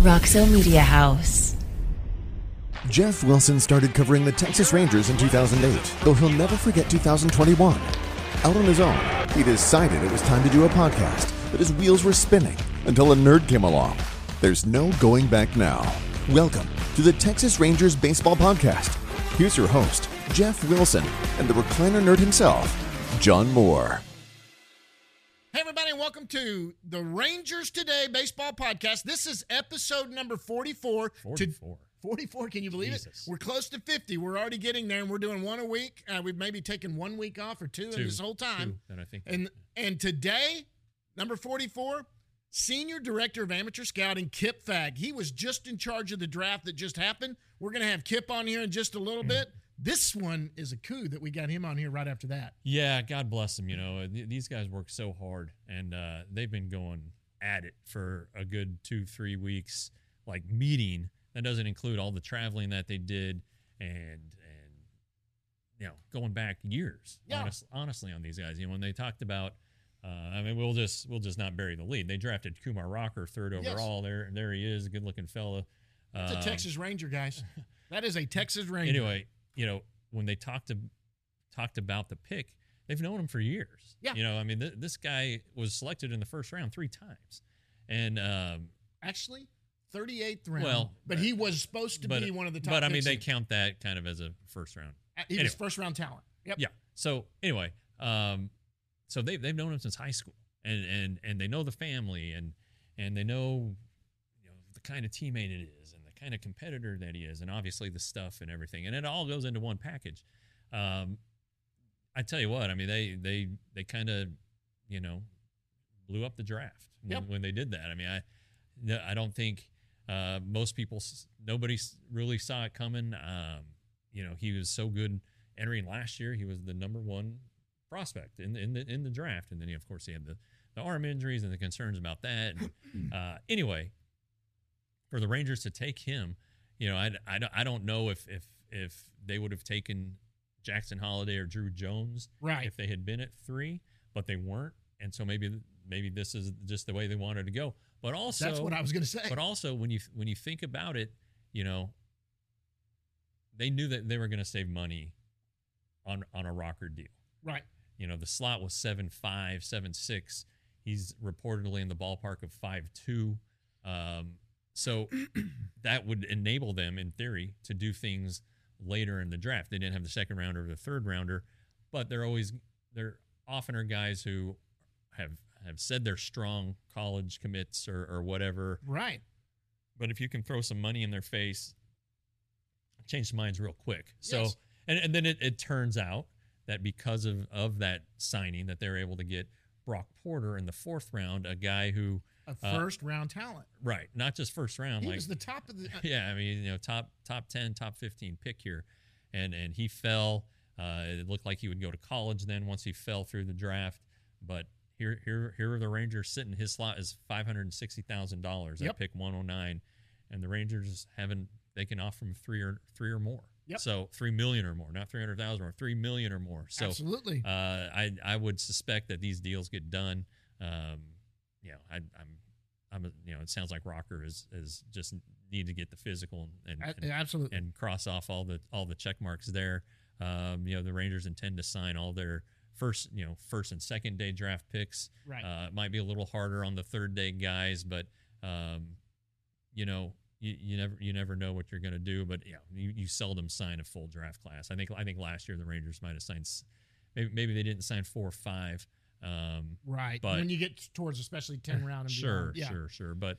Roxo Media House. Jeff Wilson started covering the Texas Rangers in 2008, though he'll never forget 2021. Out on his own, he decided it was time to do a podcast, but his wheels were spinning until a nerd came along. There's no going back now. Welcome to the Texas Rangers Baseball Podcast. Here's your host, Jeff Wilson, and the recliner nerd himself, John Moore. Hey, everybody, and welcome to the Rangers Today Baseball Podcast. This is episode number 44. 44, can you believe Jesus. it? We're close to 50. We're already getting there, and we're doing one a week. We've maybe taken 1 week off or two in this whole time. And I think And today, number 44, Senior Director of Amateur Scouting, Kip Fagg. He was just in charge of the draft that just happened. We're going to have Kip on here in just a little bit. This one is a coup that we got him on here right after that. Yeah, God bless them. You know, these guys work so hard, and they've been going at it for a good 2-3 weeks, like meeting. That doesn't include all the traveling that they did and you know, going back years, Yeah. honestly on these guys. You know, when they talked about, I mean, we'll just not bury the lead. They drafted Kumar Rocker third overall. There he is, a good-looking fella. That's a Texas Ranger, guys. That is a Texas Ranger. Anyway, you know, when they talked about the pick, they've known him for years. Yeah. You know, I mean, this guy was selected in the first round 3 times. And Actually, 38th round. Well, but he was supposed to be one of the top But I mean, picks. they count that kind of as a first round. He anyway. was first round talent. Yep. Yeah. So anyway, so they've known him since high school, and they know the family, and they know, you know, the kind of teammate it is, and the kind of competitor that he is, and obviously the stuff and everything, and it all goes into one package. I tell you what, I mean, they kind of, you know, blew up the draft when they did that. I mean, I don't think most people, nobody really saw it coming. You know, he was so good entering last year. He was the number 1 prospect in the draft, and then of course he had the arm injuries and the concerns about that. And, anyway, for the Rangers to take him, you know, I don't know if they would have taken Jackson Holliday or Drew Jones if they had been at 3, but they weren't, and so maybe this is just the way they wanted to go. But also, that's what I was going to say. But also, when you think about it, you know, they knew that they were going to save money on a Rocker deal. Right. You know, the slot was 7'5", 7'6". He's reportedly in the ballpark of 5'2". So that would enable them, in theory, to do things later in the draft. They didn't have the second rounder or the third rounder, but there often are guys who have said they're strong college commits or whatever. Right. But if you can throw some money in their face, change minds real quick. So, Yes. and then it turns out that because of that signing, that they're able to get Brock Porter in the 4th round, a guy who A first round talent. right, not just first round, He like was the top of the. yeah, I mean, you know, top 10, top 15 pick here, and he fell. It looked like he would go to college then once he fell through the draft, but here are the Rangers sitting. His slot is $560,000 at pick 109, and the Rangers they can offer him three or more. Yep. So $3 million or more, not 300,000 or $3 million or more. So Absolutely. I would suspect that these deals get done. You know, you know, it sounds like Rocker is just need to get the physical and Absolutely. and cross off all the check marks there. You know, the Rangers intend to sign all their first and second day draft picks. Right. It might be a little harder on the third day guys, but you know, you never know what you're going to do. But yeah, you seldom sign a full draft class. I think last year the Rangers might have signed, maybe they didn't sign 4 or 5. Right. But when you get towards especially 10 round and sure, beyond. sure. But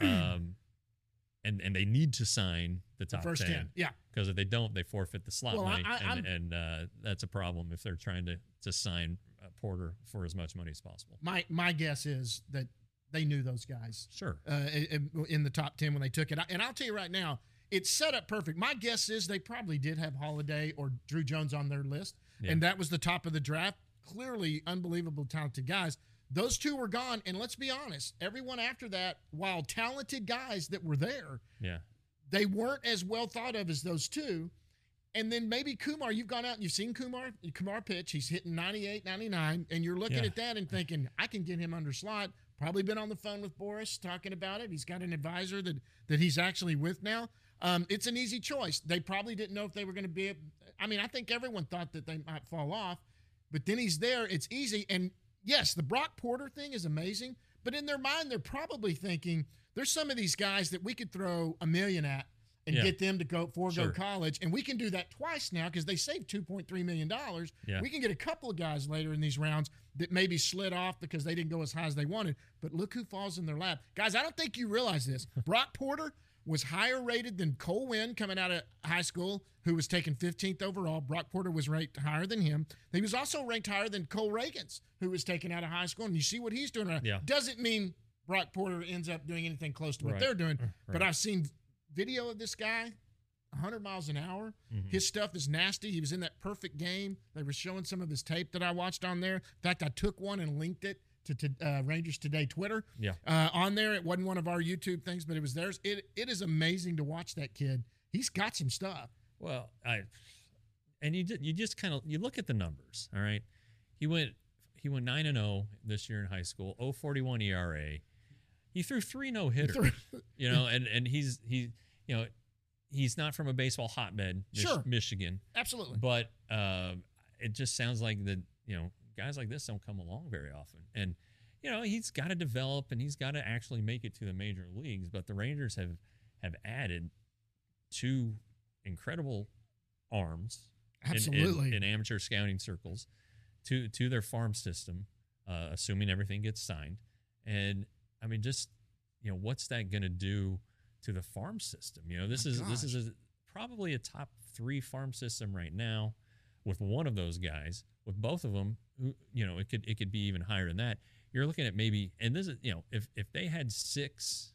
and they need to sign the top first 10. Yeah. Because if they don't, they forfeit the slot Well, money, I'm- and that's a problem if they're trying to sign Porter for as much money as possible. My guess is that they knew those guys. Sure. In the top 10 when they took it. And I'll tell you right now, it's set up perfect. My guess is they probably did have Holiday or Drew Jones on their list, and that was the top of the draft. Clearly unbelievable talented guys. Those 2 were gone, and let's be honest, everyone after that, while talented guys that were there, they weren't as well thought of as those 2. And then maybe Kumar, you've gone out and you've seen Kumar pitch. He's hitting 98, 99, and you're looking at that and thinking, I can get him under slot. Probably been on the phone with Boris talking about it. He's got an advisor that he's actually with now. It's an easy choice. They probably didn't know if they were going to be. I mean, I think everyone thought that they might fall off, but then he's there. It's easy. And yes, the Brock Porter thing is amazing, but in their mind, they're probably thinking there's some of these guys that we could throw $1 million at and get them to forego college. And we can do that twice now because they saved $2.3 million. Yeah. We can get a couple of guys later in these rounds that maybe slid off because they didn't go as high as they wanted. But look who falls in their lap. Guys, I don't think you realize this. Brock Porter was higher rated than Cole Winn coming out of high school, who was taken 15th overall. Brock Porter was ranked higher than him. He was also ranked higher than Cole Reagans, who was taken out of high school. And you see what he's doing right now. Yeah. Doesn't mean Brock Porter ends up doing anything close to what they're doing. But I've seen video of this guy, 100 miles an hour. Mm-hmm. His stuff is nasty. He was in that perfect game. They were showing some of his tape that I watched on there. In fact, I took one and linked it to Rangers Today Twitter. Yeah. On there, it wasn't one of our YouTube things, but it was theirs. It is amazing to watch that kid. He's got some stuff. Well, you just kind of look at the numbers. All right, he went 9-0 this year in high school. 0.41 ERA. He threw 3 no-hitters. And he's not from a baseball hotbed, Michigan. Absolutely. But it just sounds like that, guys like this don't come along very often. And, he's got to develop and he's got to actually make it to the major leagues. But the Rangers have added 2 incredible arms Absolutely. in amateur scouting circles to their farm system, assuming everything gets signed. And, I mean, just, what's that going to do to the farm system? This is probably a top 3 farm system right now with one of those guys. With both of them, it could be even higher than that. You're looking at maybe, and this is, if they had 6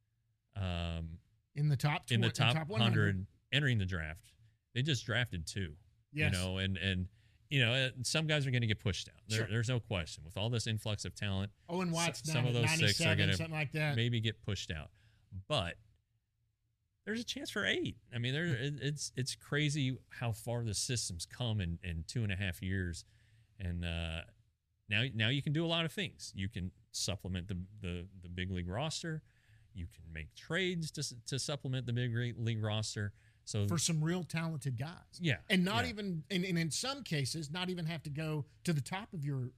in the top 100 entering the draft, they just drafted 2. Yes. And some guys are going to get pushed out. There's no question. With all this influx of talent, Owen Watts, some of those 6 are going to something like that. maybe get pushed out. But there's a chance for 8. I mean, it's crazy how far the system's come in 2.5 years. And now you can do a lot of things. You can supplement the big league roster. You can make trades to supplement the big league roster. So for some real talented guys. Yeah. And not even, and in some cases, not even have to go to the top of your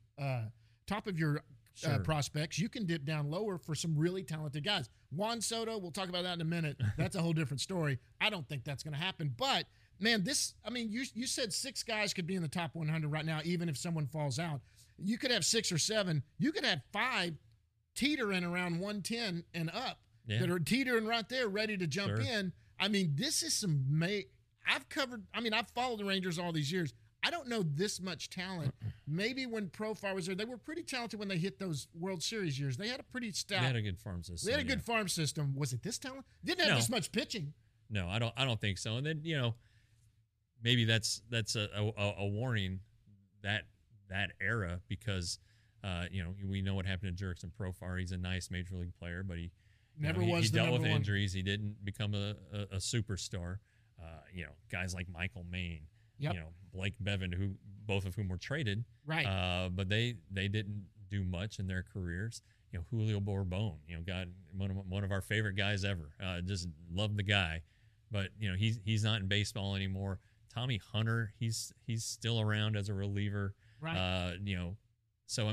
prospects. You can dip down lower for some really talented guys. Juan Soto, we'll talk about that in a minute. That's a whole different story. I don't think that's going to happen. But, man, you said 6 guys could be in the top 100 right now, even if someone falls out. You could have 6 or 7. You could have 5 teetering around 110 and up that are teetering right there, ready to jump in. I mean, this is I've followed the Rangers all these years. I don't know this much talent. Maybe when Profar was there, they were pretty talented when they hit those World Series years. They had a pretty stout. They had a good farm system. They had a good farm system. Was it this talent? Didn't have this much pitching. No, I don't think so. And then maybe that's a warning that era because we know what happened to Jurickson Profar. He's a nice major league player, but he dealt with injuries. He didn't become a superstar. Guys like Michael Maine. Yep. Blake Bevan, both of whom were traded, right? But they didn't do much in their careers. Julio Borbón, one of our favorite guys ever. Just love the guy, but he's not in baseball anymore. Tommy Hunter, he's still around as a reliever, right? So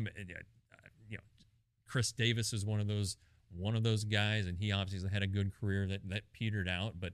Chris Davis is one of those guys, and he obviously had a good career that petered out, but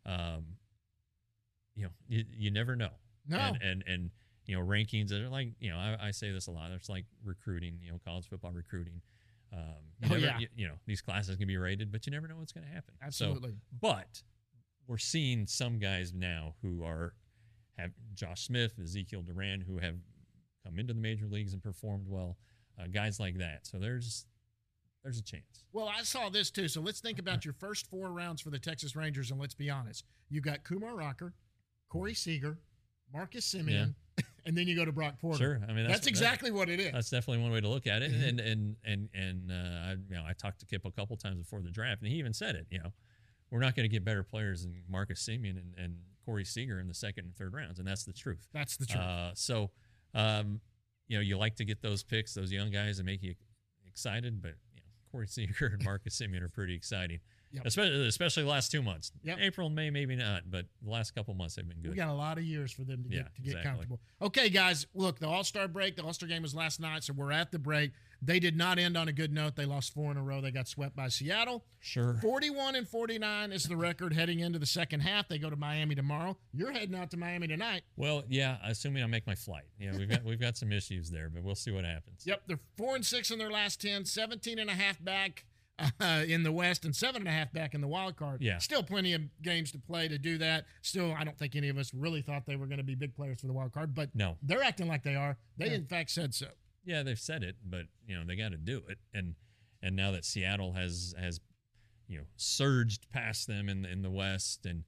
you never know. No. And rankings that are like, I say this a lot. It's like recruiting, college football recruiting. These classes can be rated, but you never know what's going to happen. Absolutely. So, but we're seeing some guys now who have Josh Smith, Ezekiel Duran, who have come into the major leagues and performed well. Guys like that. So there's a chance. Well, I saw this too. So let's think about your first 4 rounds for the Texas Rangers, and let's be honest. You got Kumar Rocker, Corey Seager, Marcus Semien, and then you go to Brock Porter. Sure, I mean that's exactly what it is. That's definitely one way to look at it. And I talked to Kip a couple times before the draft, and he even said it. We're not going to get better players than Marcus Semien and Corey Seager in the 2nd and 3rd rounds, and that's the truth. That's the truth. You like to get those picks, those young guys, that make you excited, but Corey Seager and Marcus Semien are pretty exciting. Yep. Especially the last 2 months. Yep. April and May, maybe not, but the last couple months they've been good. We got a lot of years for them to get exactly. comfortable. Okay, guys, look, the All-Star break, the All-Star game was last night, so we're at the break. They did not end on a good note. They lost 4 in a row. They got swept by Seattle. Sure. 41-49 is the record heading into the second half. They go to Miami tomorrow. You're heading out to Miami tonight. Well, yeah, assuming I make my flight. Yeah, we've got some issues there, but we'll see what happens. Yep, they're 4-6 in their last 10, 17.5 back in the West and 7.5 back in the wild card. Yeah. Still plenty of games to play to do that. Still, I don't think any of us really thought they were going to be big players for the wild card, but no, they're acting like they are. They, in fact, said so. Yeah, they've said it, but they got to do it. And now that Seattle has surged past them in the West, and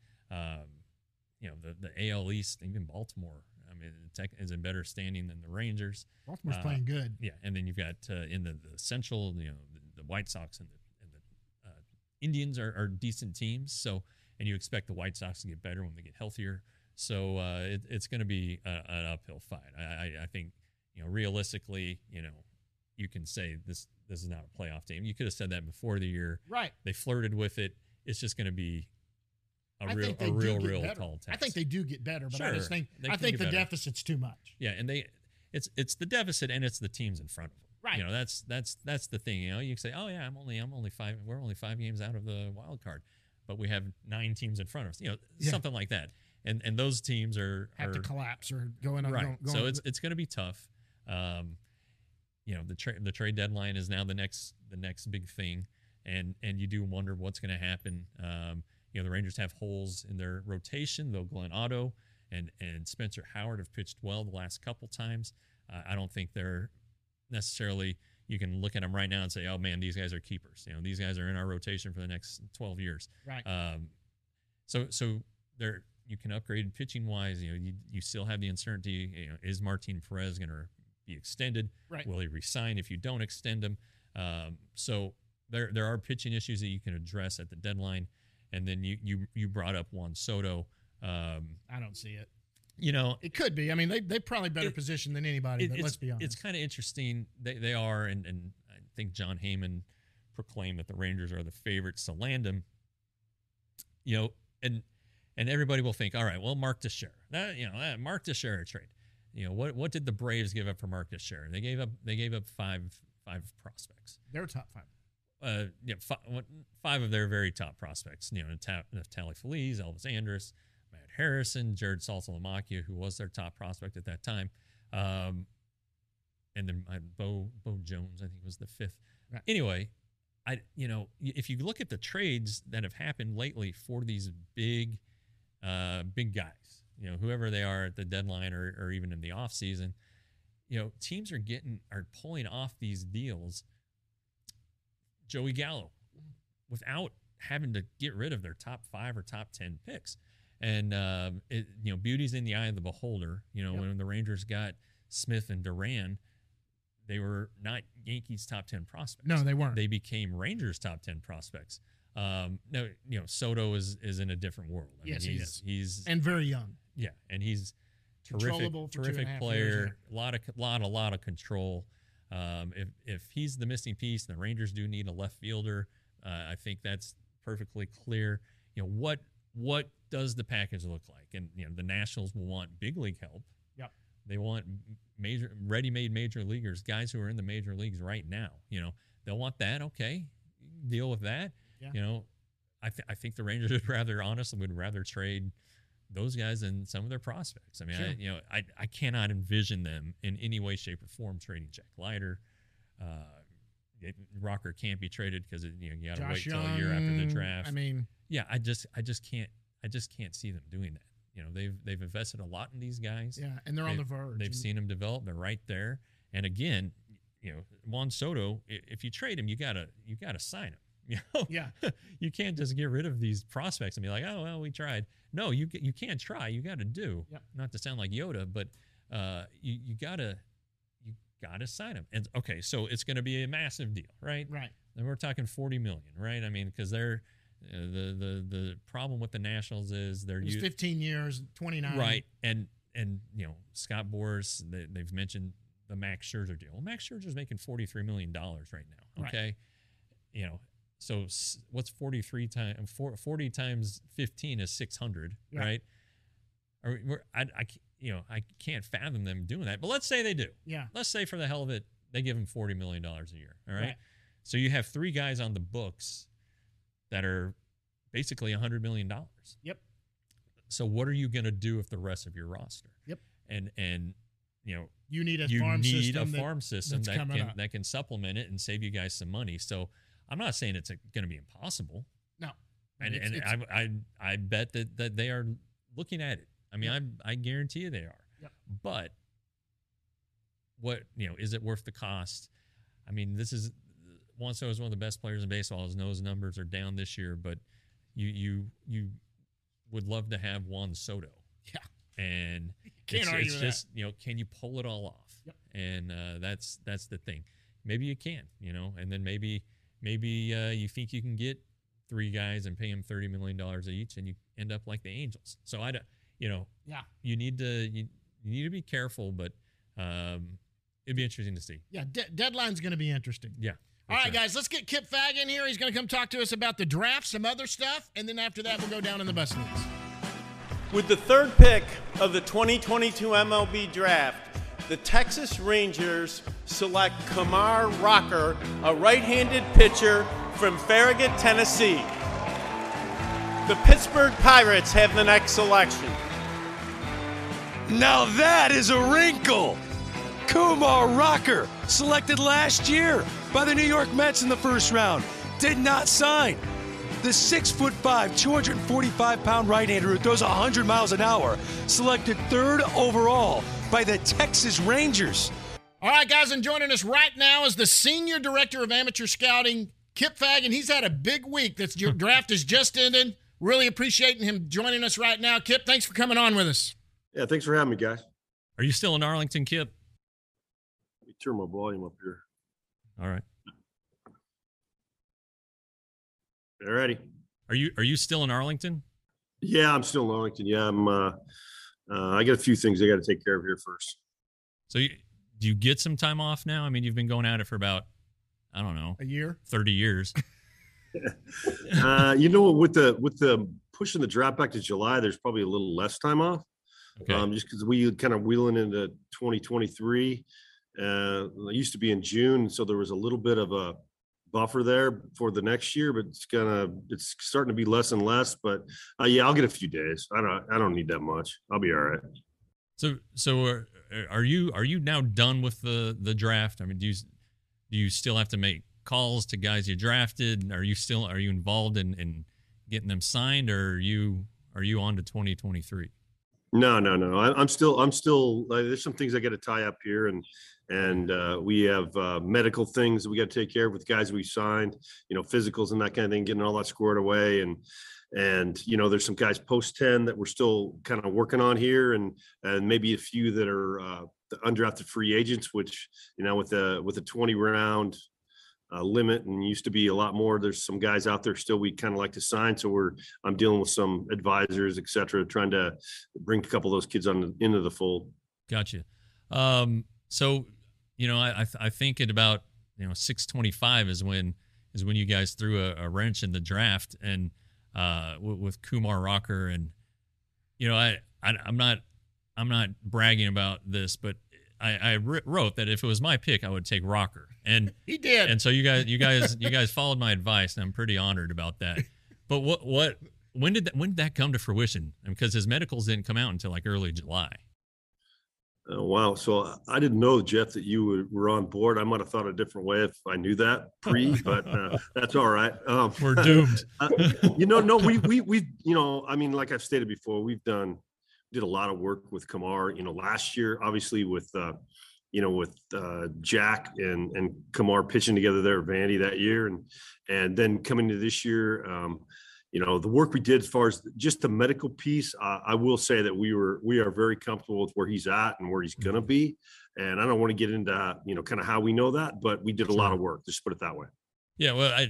the AL East, even Baltimore, I mean, Tech is in better standing than the Rangers. Baltimore's playing good. Yeah, and then you've got in the Central, the White Sox and the Indians are decent teams. So, and you expect the White Sox to get better when they get healthier. So it's going to be an uphill fight. I think. Realistically, you can say this is not a playoff team. You could have said that before the year. Right. They flirted with it. It's just going to be a real tall task. I think they do get better, but sure, I think the deficit's too much. Yeah, and it's the deficit and it's the teams in front of them. Right. That's the thing. You can say, oh yeah, we're only 5 games out of the wild card, but we have 9 teams in front of us. Something like that. And those teams have to collapse or going on. Right. So it's going to be tough. The trade deadline is now the next big thing, and you do wonder what's going to happen. The Rangers have holes in their rotation, though Glenn Otto and Spencer Howard have pitched well the last couple times. I don't think they're necessarily. You can look at them right now and say, "Oh man, these guys are keepers." These guys are in our rotation for the next 12 years. Right. So there you can upgrade pitching wise. You still have the uncertainty. Is Martin Perez going to be extended? Right. Will he resign if you don't extend him? So there are pitching issues that you can address at the deadline. And then you brought up Juan Soto. I don't see it. It could be. I mean, they probably better positioned than anybody. But let's be honest. It's kind of interesting. They are, and I think John Heyman proclaimed that the Rangers are the favorites to land him. And everybody will think, all right, well, Mark Teixeira. That Mark Teixeira trade. What did the Braves give up for Mark Teixeira? They gave up five prospects. Their top 5. Five of their very top prospects. Natali Feliz, Elvis Andrus, Matt Harrison, Jared Saltalamacchia, who was their top prospect at that time, and then Bo Jones, I think, was the 5th. Right. Anyway, if you look at the trades that have happened lately for these big guys, whoever they are at the deadline or even in the off season, teams are pulling off these deals. Joey Gallo, without having to get rid of their top 5 or top 10 picks, and beauty's in the eye of the beholder. When the Rangers got Smith and Duran, they were not Yankees top 10 prospects. No, they weren't. They became Rangers top 10 prospects. No, Soto is in a different world. Yes, he is. He's and very young. Yeah, and he's terrific player. A lot of control. If he's the missing piece, the Rangers do need a left fielder. I think that's perfectly clear. What does the package look like? And the Nationals will want big league help. Yep. They want ready-made major leaguers, guys who are in the major leagues right now. They'll want that. Okay, deal with that. Yeah. I think the Rangers would rather trade those guys than some of their prospects. I mean, sure. I cannot envision them in any way, shape, or form trading Jack Leiter. Rocker can't be traded because you got to wait till a year after the draft. I mean, yeah, I just can't see them doing that. They've invested a lot in these guys. Yeah, and they're on the verge. They've seen them develop. They're right there. And again, Juan Soto, if you trade him, you gotta sign him. Yeah, you can't just get rid of these prospects and be like, oh well, we tried. No, you can't try. You got to do. Yep. Not to sound like Yoda, but you gotta sign them. And okay, so it's going to be a massive deal, right? Right. And we're talking $40 million, right? I mean, because they're the problem with the Nationals is they're 15 years, 29. Right, and Scott Boras, they've mentioned the Max Scherzer deal. Well, Max Scherzer's making $43 million right now. Okay. Right. So what's 40 times 15 is 600, right? I can't fathom them doing that. But let's say they do. Yeah. Let's say for the hell of it, they give him $40 million a year. All right. So you have 3 guys on the books that are basically $100 million. Yep. So what are you going to do with the rest of your roster? Yep. And you need a farm system that can supplement it and save you guys some money. So I'm not saying it's going to be impossible. No. I bet that they are looking at it. I mean, I guarantee you they are. Yep. But what, is it worth the cost? I mean, this is Juan Soto is one of the best players in baseball. His nose numbers are down this year, but you would love to have Juan Soto. Yeah. And Can't argue with just, can you pull it all off? Yep. And that's the thing. Maybe you can, and then maybe you think you can get 3 guys and pay them $30 million each, and you end up like the Angels. So you need to be careful, but it'd be interesting to see. Yeah, deadline's going to be interesting. Yeah. All right, guys, let's get Kip Fagg in here. He's going to come talk to us about the draft, some other stuff, and then after that, we'll go down in the bus leagues. With the 3rd pick of the 2022 MLB Draft, the Texas Rangers select Kumar Rocker, a right-handed pitcher from Farragut, Tennessee. The Pittsburgh Pirates have the next selection. Now that is a wrinkle. Kumar Rocker, selected last year by the New York Mets in the first round, did not sign. The 6'5", 245-pound right-hander who throws 100 miles an hour, selected 3rd overall by the Texas Rangers. All right, guys, and joining us right now is the Senior Director of Amateur Scouting, Kip Fagg, and he's had a big week. Your draft has just ended. Really appreciating him joining us right now. Kip, thanks for coming on with us. Yeah, thanks for having me, guys. Are you still in Arlington, Kip? Let me turn my volume up here. All right. All righty. Are you still in Arlington? Yeah, I'm still in Arlington. Yeah, I got a few things I got to take care of here first. So do you get some time off now? I mean, you've been going at it for about, I don't know, a year, 30 years. With the pushing the draft back to July, there's probably a little less time off. Okay. Just because we kind of wheeling into 2023. It used to be in June, so there was a little bit of a buffer there for the next year, but it's starting to be less and less. But yeah, I'll get a few days. I don't need that much. I'll be all right. So are you now done with the draft? I mean, do you still have to make calls to guys you drafted? Are you involved in getting them signed, or are you on to 2023? No. I'm still. There's some things I got to tie up here, and we have medical things that we got to take care of with guys we signed. Physicals and that kind of thing, getting all that squared away, and there's some guys post 10 that we're still kind of working on here, and maybe a few that are the undrafted free agents, which with a 20 round limit, and used to be a lot more. There's some guys out there still we kind of like to sign, so I'm dealing with some advisors, etc., trying to bring a couple of those kids into the fold. Gotcha. So I think at about 625 is when you guys threw a wrench in the draft, and with Kumar Rocker, and I'm not bragging about this, but I wrote that if it was my pick, I would take Rocker, and he did. And so you guys followed my advice, and I'm pretty honored about that. But when did that come to fruition? Because his medicals didn't come out until like early July. Oh, wow. So I didn't know, Jeff, that you were on board. I might have thought a different way if I knew that but that's all right. We're doomed. No, we I mean, like I've stated before, did a lot of work with Kumar, last year, obviously with Jack and Kumar pitching together there at Vandy that year. And then coming to this year, the work we did as far as just the medical piece, I will say that we are very comfortable with where he's at and where he's going to be. And I don't want to get into, kind of how we know that, but we did a lot of work, just put it that way. Yeah. Well,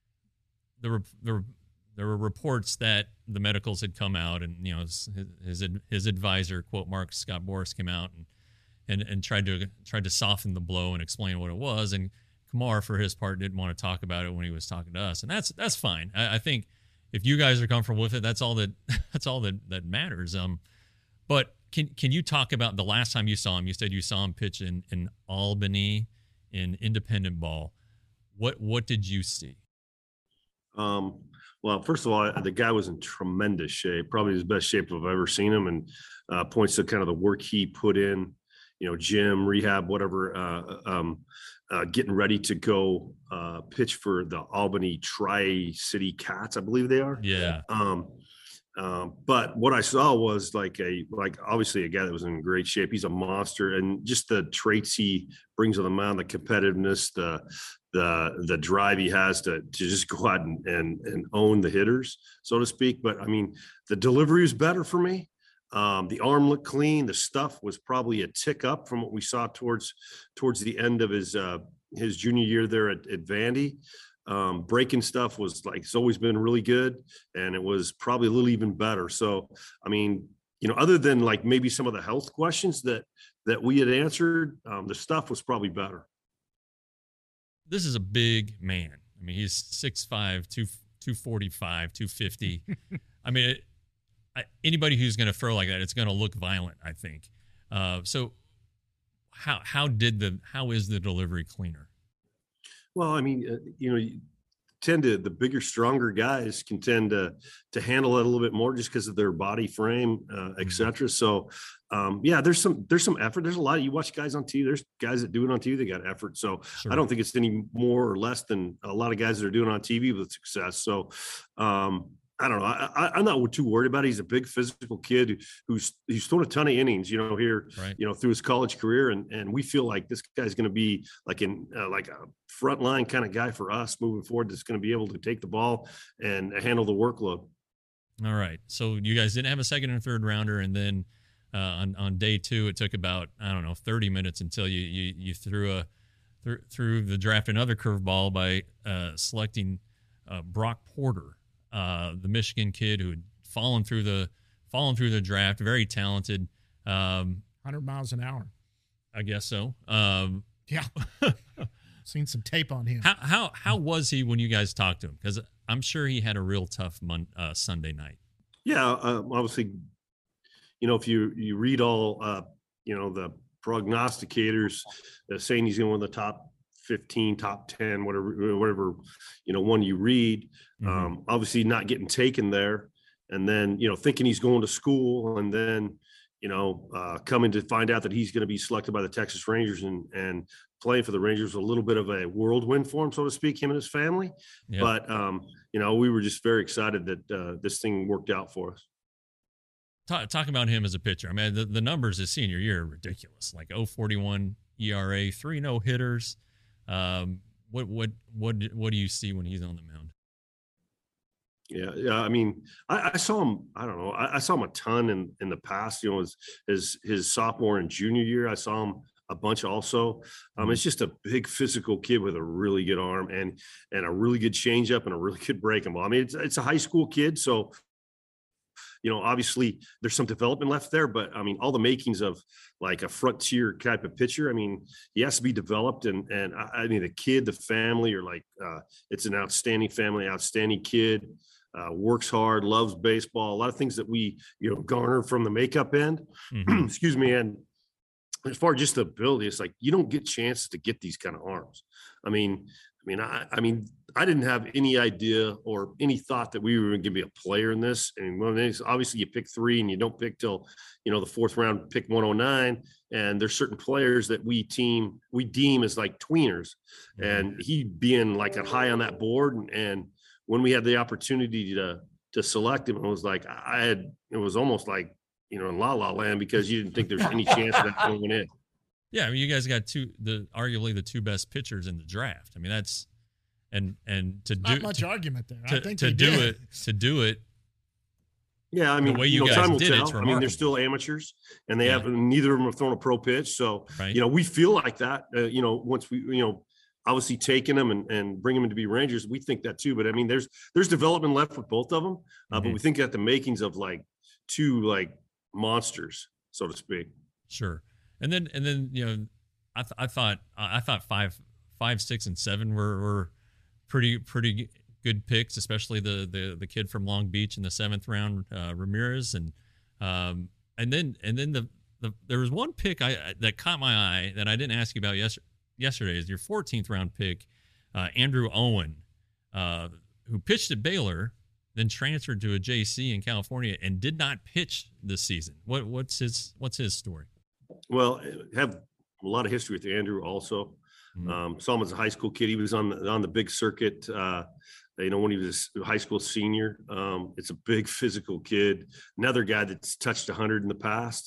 there were reports that the medicals had come out, and his advisor, quote Mark Scott Boras, came out and tried to soften the blow and explain what it was. And Kamar, for his part, didn't want to talk about it when he was talking to us, and that's fine. I think if you guys are comfortable with it, that's all that matters. But can you talk about the last time you saw him? You said you saw him pitch in Albany in independent ball. What did you see? Well, first of all, the guy was in tremendous shape, probably his best shape I've ever seen him, and points to kind of the work he put in, gym, rehab, whatever, getting ready to go pitch for the Albany Tri-City Cats, I believe they are. Yeah. But what I saw was like obviously a guy that was in great shape. He's a monster, and just the traits he brings on the mound, the competitiveness, the drive he has to just go out and own the hitters, so to speak. But I mean, the delivery was better for me. The arm looked clean. The stuff was probably a tick up from what we saw towards the end of his junior year there at Vandy. Breaking stuff was like, it's always been really good, and it was probably a little even better. So, I mean, other than like maybe some of the health questions that we had answered, the stuff was probably better. This is a big man. I mean, he's 6'5", 245, 250. I mean, anybody who's going to throw like that, it's going to look violent, I think. So how is the delivery cleaner? Well, I mean, the bigger, stronger guys can tend to handle it a little bit more just because of their body frame, et cetera. So, there's some effort. There's a lot. You watch guys on TV. There's guys that do it on TV. They got effort. So sure. I don't think it's any more or less than a lot of guys that are doing it on TV with success. So, I don't know. I'm not too worried about it. He's a big physical kid who's thrown a ton of innings, here, right, through his college career. And we feel like this guy's going to be like like a frontline kind of guy for us moving forward. That's going to be able to take the ball and handle the workload. All right. So you guys didn't have a second and third rounder. And then on day two, it took about, 30 minutes until you threw the draft another curveball by selecting Brock Porter. The Michigan kid who had fallen through the draft, very talented. 100 miles an hour. I guess so. Yeah. Seen some tape on him. How was he when you guys talked to him? Because I'm sure he had a real tough Sunday night. Yeah, obviously, if you read all, the prognosticators saying he's going to win the top 15, top 10, whatever, one you read, obviously not getting taken there. And then, thinking he's going to school, and then, coming to find out that he's going to be selected by the Texas Rangers and playing for the Rangers, a little bit of a whirlwind for him, so to speak, him and his family. Yeah. But, we were just very excited that this thing worked out for us. Talk about him as a pitcher. I mean, the numbers his senior year are ridiculous, like 0.41 ERA, 3 no-hitters. What do you see when he's on the mound? Yeah. I mean, I saw him. I don't know. I saw him a ton in the past. His sophomore and junior year, I saw him a bunch also. It's just a big physical kid with a really good arm and a really good changeup and a really good breaking ball. I mean, it's a high school kid, so. Obviously there's some development left there, but I mean, all the makings of like a frontier type of pitcher, I mean, he has to be developed. And I mean, the kid, the family are like, it's an outstanding family, outstanding kid, works hard, loves baseball, a lot of things that we, garner from the makeup end, excuse me. And as far as just the ability, it's like, you don't get chances to get these kind of arms. I mean, I didn't have any idea or any thought that we were going to be a player in this. And obviously you pick 3 and you don't pick till, the fourth round, pick 109. And there's certain players that we deem as like tweeners, and he being like a high on that board. And when we had the opportunity to select him, it was like, it was almost like, in La La Land, because you didn't think there's any chance of that going in. Yeah, I mean, you guys got arguably the 2 best pitchers in the draft. I mean, that's and to not do much argument there. I think to do it. Yeah, I mean, the way you guys time will did tell. It's remarkable. I mean, they're still amateurs, and they have neither of them have thrown a pro pitch. So right. We feel like that. Once we obviously taking them and bring them to be Rangers, we think that too. But I mean, there's development left with both of them, but we think that the makings of like 2 like monsters, so to speak. Sure. And then I thought 5, 6, and 7 were pretty good picks, especially the kid from Long Beach in the 7th round, Ramirez, and then there was one pick that caught my eye that I didn't ask you about yesterday. Is your 14th round pick, Andrew Owen, who pitched at Baylor, then transferred to a JC in California and did not pitch this season. What's his story? Well, I have a lot of history with Andrew also. Saw him as a high school kid. He was on the big circuit, when he was a high school senior. It's a big physical kid. Another guy that's touched 100 in the past.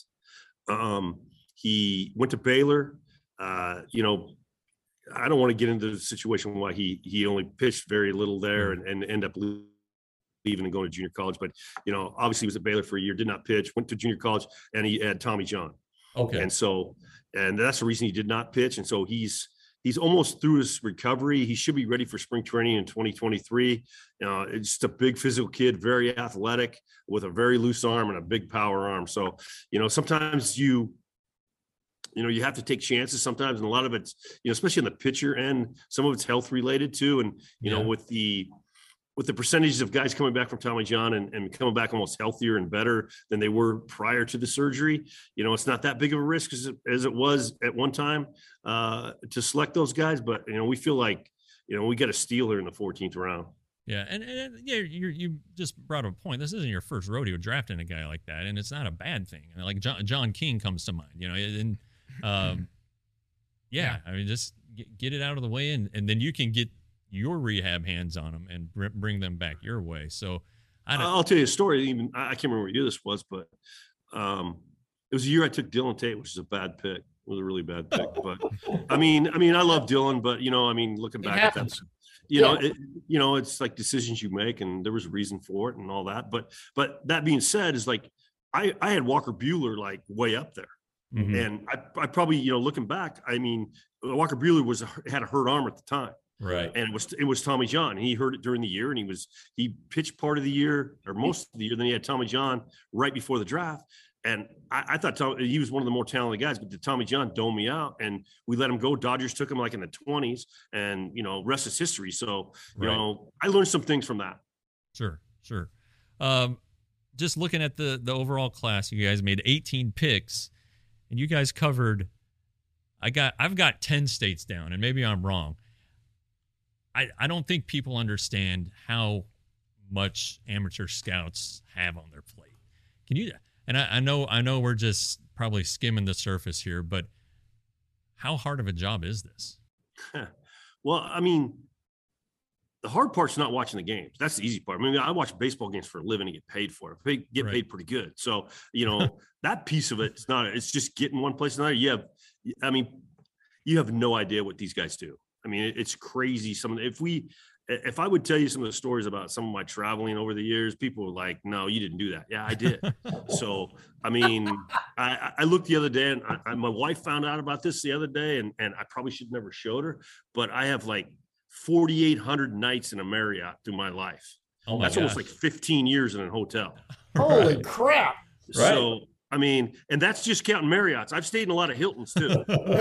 He went to Baylor. I don't want to get into the situation why he only pitched very little there and end up leaving and going to junior college. But, obviously he was at Baylor for a year, did not pitch, went to junior college, and he had Tommy John. Okay. And that's the reason he did not pitch. And so he's almost through his recovery. He should be ready for spring training in 2023. It's just a big physical kid, very athletic, with a very loose arm and a big power arm. So, sometimes you have to take chances sometimes. And a lot of it's, especially in the pitcher end, some of it's health related too. And, with the percentages of guys coming back from Tommy John and coming back almost healthier and better than they were prior to the surgery, it's not that big of a risk as it was at one time to select those guys. But, we feel like, we got a steal here in the 14th round. Yeah. And you just brought up a point. This isn't your first rodeo drafting a guy like that. And it's not a bad thing. Like John King comes to mind, and I mean, just get it out of the way. And then you can get your rehab hands on them and bring them back your way. So I'll tell you a story. Even I can't remember what year this was, but it was a year I took Dylan Tate, which is a bad pick. It was a really bad pick. But I mean, I love Dylan, but looking back at that, it's like decisions you make, and there was a reason for it and all that. But that being said, is like I had Walker Buehler like way up there. Mm-hmm. And I probably, looking back, Walker Buehler had a hurt arm at the time. Right. And it was Tommy John. He hurt it during the year, and he pitched part of the year or most of the year. Then he had Tommy John right before the draft. And I thought he was one of the more talented guys, but the Tommy John domed me out, and we let him go. Dodgers took him like in the 20s, and, rest is history. So, I learned some things from that. Sure. Just looking at the overall class, you guys made 18 picks, and you guys covered, I've got 10 states down, and maybe I'm wrong. I don't think people understand how much amateur scouts have on their plate. Can you? And I know we're just probably skimming the surface here, but how hard of a job is this? Well, the hard part's not watching the games. That's the easy part. I watch baseball games for a living and get paid for it. Get paid pretty good. So, that piece of it's it's just getting one place or another. You have no idea what these guys do. It's crazy. If I would tell you some of the stories about some of my traveling over the years, people were like, no, you didn't do that. Yeah, I did. So, I looked the other day, and my wife found out about this the other day, and I probably should never showed her, but I have like 4,800 nights in a Marriott through my life. Oh my That's gosh. almost like 15 years in a hotel. Holy crap. So, and that's just counting Marriotts. I've stayed in a lot of Hiltons too.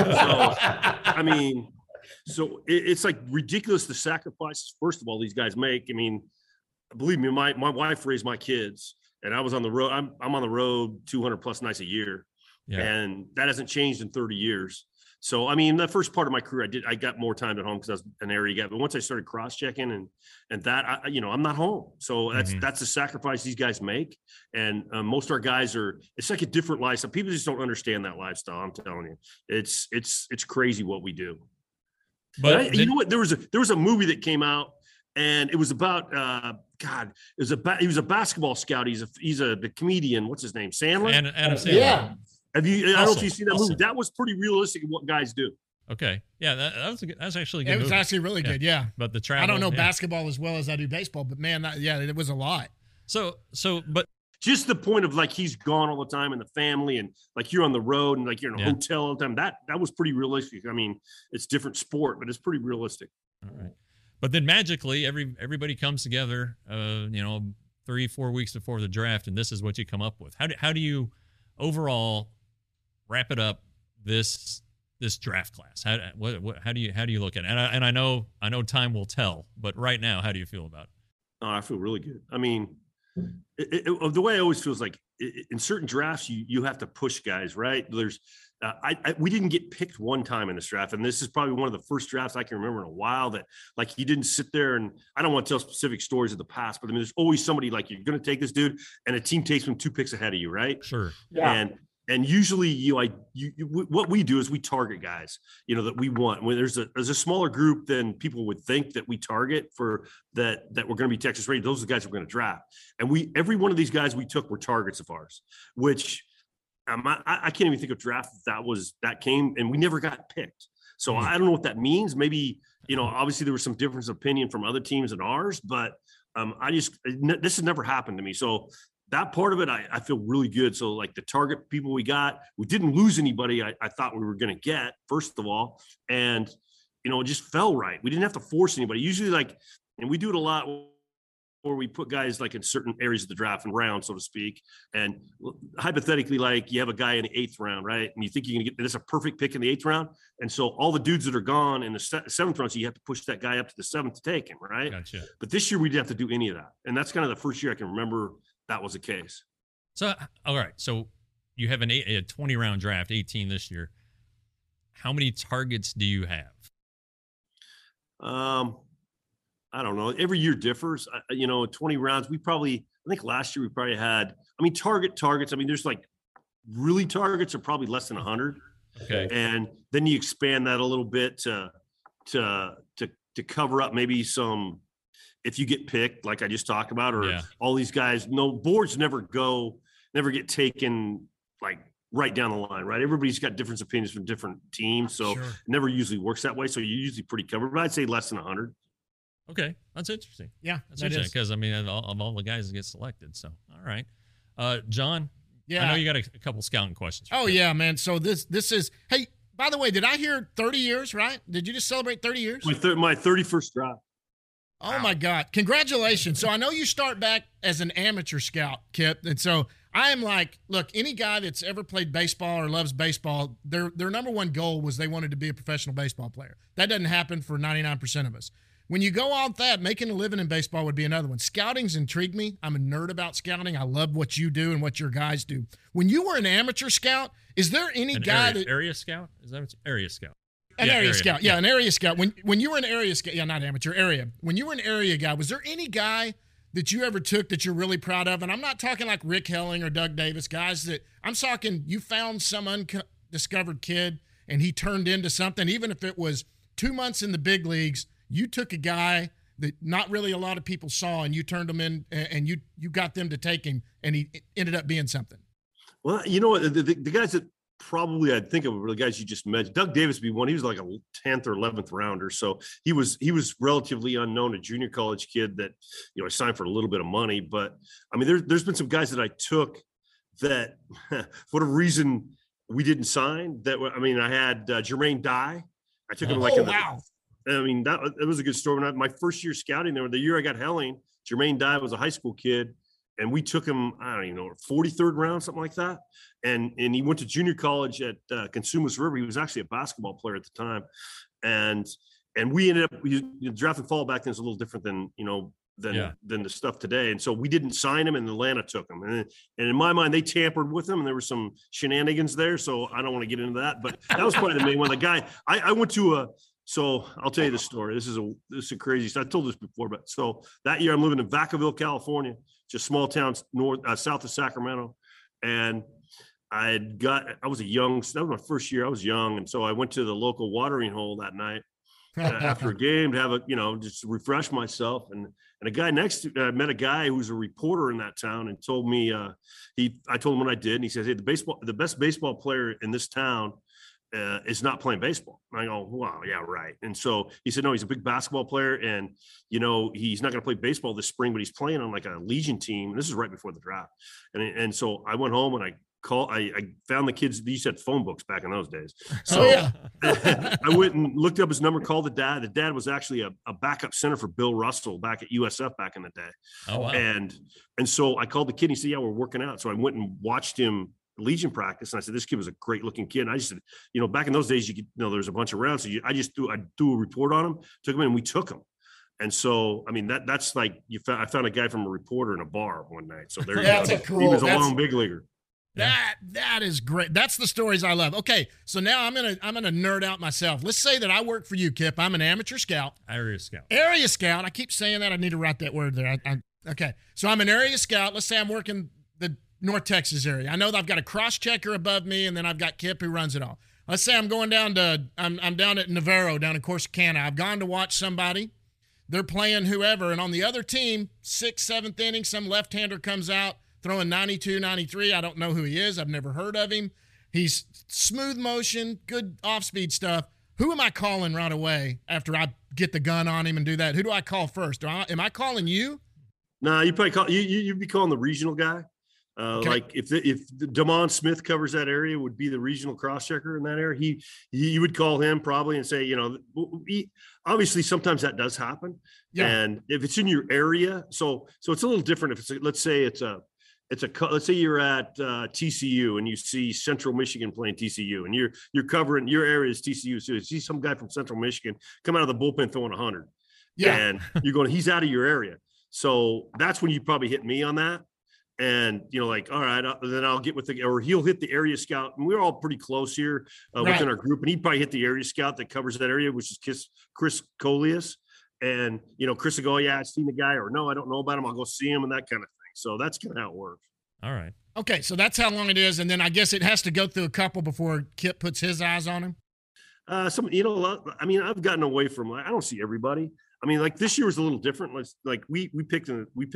So, it's like ridiculous the sacrifices, first of all, these guys make. Believe me, my wife raised my kids, and I was on the road. I'm on the road 200 plus nights a year. Yeah. And that hasn't changed in 30 years. So, the first part of my career, I got more time at home because I was an area guy. But once I started cross-checking and that, I'm not home. So that's the sacrifice these guys make. And most of our guys it's like a different lifestyle. People just don't understand that lifestyle. I'm telling you, it's crazy what we do. But you know what? There was a movie that came out, and it was about he was a basketball scout. He's the comedian. What's his name? Sandler. Adam Sandler. Yeah. I don't know if you've seen that movie. That was pretty realistic of what guys do. Okay. Yeah, that's actually a good. It was movie. actually really good. Yeah. But the travel. I don't know basketball as well as I do baseball, but man, it was a lot. But just the point of like he's gone all the time and the family, and like you're on the road and like you're in a hotel all the time. That was pretty realistic. It's different sport, but it's pretty realistic. All right. But then magically everybody comes together 3-4 weeks before the draft, and this is what you come up with. How do you overall wrap it up this this draft class? How do you look at it? And I know time will tell, but right now, how do you feel about it? Oh, I feel really good. I mean, the way I always feel is like in certain drafts, you have to push guys, right? There's we didn't get picked one time in this draft, and this is probably one of the first drafts I can remember in a while that like you didn't sit there, and I don't want to tell specific stories of the past, but I mean, there's always somebody like you're going to take this dude, and a team takes him 2 picks ahead of you, right? Sure. Yeah. And usually what we do is we target guys, that we want. When there's a smaller group than people would think that we target for that we're going to be Texas Rangers. Those are the guys we're going to draft. And every one of these guys we took were targets of ours, which I can't even think of draft that came and we never got picked. So I don't know what that means. Maybe, obviously there was some difference of opinion from other teams and ours, but this has never happened to me. So that part of it, I feel really good. So like the target people we got, we didn't lose anybody I thought we were going to get, first of all. And, it just fell right. We didn't have to force anybody. Usually and we do it a lot where we put guys like in certain areas of the draft and round, so to speak. And hypothetically, like you have a guy in the 8th round, right? And you think you're going to get this a perfect pick in the 8th round. And so all the dudes that are gone in the 7th round, so you have to push that guy up to the 7th to take him, right? Gotcha. But this year we didn't have to do any of that. And that's kind of the first year I can remember that was the case. So, all right. So you have a 20 round draft, 18 this year. How many targets do you have? I don't know. Every year differs. 20 rounds. I think last year we probably had, targets. I mean, there's like really targets are probably less than 100. Okay. And then you expand that a little bit to cover up maybe some, if you get picked, like I just talked about, or all these guys, no boards never get taken like right down the line, right? Everybody's got different opinions from different teams. So it never usually works that way. So you're usually pretty covered, but I'd say less than 100. Okay. That's interesting. Yeah. That's interesting because, I mean, of all the guys that get selected. So, all right. John, yeah, I know you got a couple scouting questions. Oh, yeah, man. So this is, hey, by the way, did I hear 30 years, right? Did you just celebrate 30 years? My 31st draft. Oh, wow. My God. Congratulations. So I know you start back as an amateur scout, Kip. And so I am like, look, any guy that's ever played baseball or loves baseball, their number one goal was they wanted to be a professional baseball player. That doesn't happen for 99% of us. When you go off that, making a living in baseball would be another one. Scouting's intrigued me. I'm a nerd about scouting. I love what you do and what your guys do. When you were an amateur scout, is there any area scout? Is that area scout? An area scout. Yeah, an area scout. When you were an area scout, not amateur, area. When you were an area guy, was there any guy that you ever took that you're really proud of? And I'm not talking like Rick Helling or Doug Davis, guys that I'm talking you found some undiscovered kid and he turned into something, even if it was 2 months in the big leagues, you took a guy that not really a lot of people saw and you turned him in and you got them to take him and he ended up being something. Well, the guys that probably I'd think of were the guys you just mentioned. Doug Davis would be one. He was like a 10th or 11th rounder. So he was relatively unknown, a junior college kid that, I signed for a little bit of money. But I mean, there's been some guys that I took that for whatever reason we didn't sign I had Jermaine Dye. I took him wow. I mean, it was a good story. My first year scouting there, the year I got Helling, Jermaine Dye was a high school kid. And we took him, I don't even know, 43rd round, something like that. And he went to junior college at Cosumnes River. He was actually a basketball player at the time. And we ended up, draft and fall back then is a little different than the stuff today. And so we didn't sign him and Atlanta took him. And in my mind, they tampered with him and there were some shenanigans there. So I don't want to get into that, but that was probably the main one. The guy, I went to so I'll tell you the story. This is a crazy story. I told this before, but so that year I'm living in Vacaville, California, just small town south of Sacramento. And that was my first year. I was young. And so I went to the local watering hole that night after a game to have just refresh myself. And a guy next to I met a guy who was a reporter in that town and told me, I told him what I did. And he says, hey, the best baseball player in this town is not playing baseball. And I go, wow, yeah, right. And so he said, no, he's a big basketball player and, he's not going to play baseball this spring, but he's playing on like a Legion team. And this is right before the draft. And so I went home and I found the kids. These had phone books back in those days. So I went and looked up his number, called the dad. The dad was actually a backup center for Bill Russell back at USF back in the day. Oh, wow. And so I called the kid and he said, yeah, we're working out. So I went and watched him Legion practice, and I said, this kid was a great looking kid. And I just said, back in those days, there's a bunch of rounds. So I do a report on him, took him in, and we took him. And so, I mean, that's like I found a guy from a reporter in a bar one night. So there you go. Cool. He was a long big leaguer. That is great. That's the stories I love. Okay, so now I'm gonna nerd out myself. Let's say that I work for you, Kip. I'm an amateur scout. Area scout. Area scout. I keep saying that. I need to write that word there. Okay, so I'm an area scout. Let's say I'm working the North Texas area. I know that I've got a cross checker above me, and then I've got Kip who runs it all. Let's say I'm going down to I'm down at Navarro down in Corsicana. I've gone to watch somebody. They're playing whoever, and on the other team, 6th, 7th inning, some left-hander comes out throwing 92, 93. I don't know who he is. I've never heard of him. He's smooth motion, good off-speed stuff. Who am I calling right away after I get the gun on him and do that? Who do I call first? Am I calling you? No, you probably call you'd be calling the regional guy. Okay. Like if Damon Smith covers that area, would be the regional cross checker in that area. You would call him probably and say, obviously sometimes that does happen. Yeah. And if it's in your area, so it's a little different. If it's let's say let's say you're at TCU and you see Central Michigan playing TCU, and you're covering your area is TCU. So you see some guy from Central Michigan come out of the bullpen throwing 100. Yeah. And you're going, he's out of your area. So that's when you probably hit me on that. And, like, all right, then I'll get with or he'll hit the area scout. And we're all pretty close here within our group. And he'd probably hit the area scout that covers that area, which is Chris Coleus. And, Chris will go, yeah, I've seen the guy, or no, I don't know about him. I'll go see him and that kind of thing. So that's kind of how it works. All right. Okay. So that's how long it is. And then I guess it has to go through a couple before Kip puts his eyes on him. I've gotten away from, I don't see everybody. I mean, like this year was a little different. Like we picked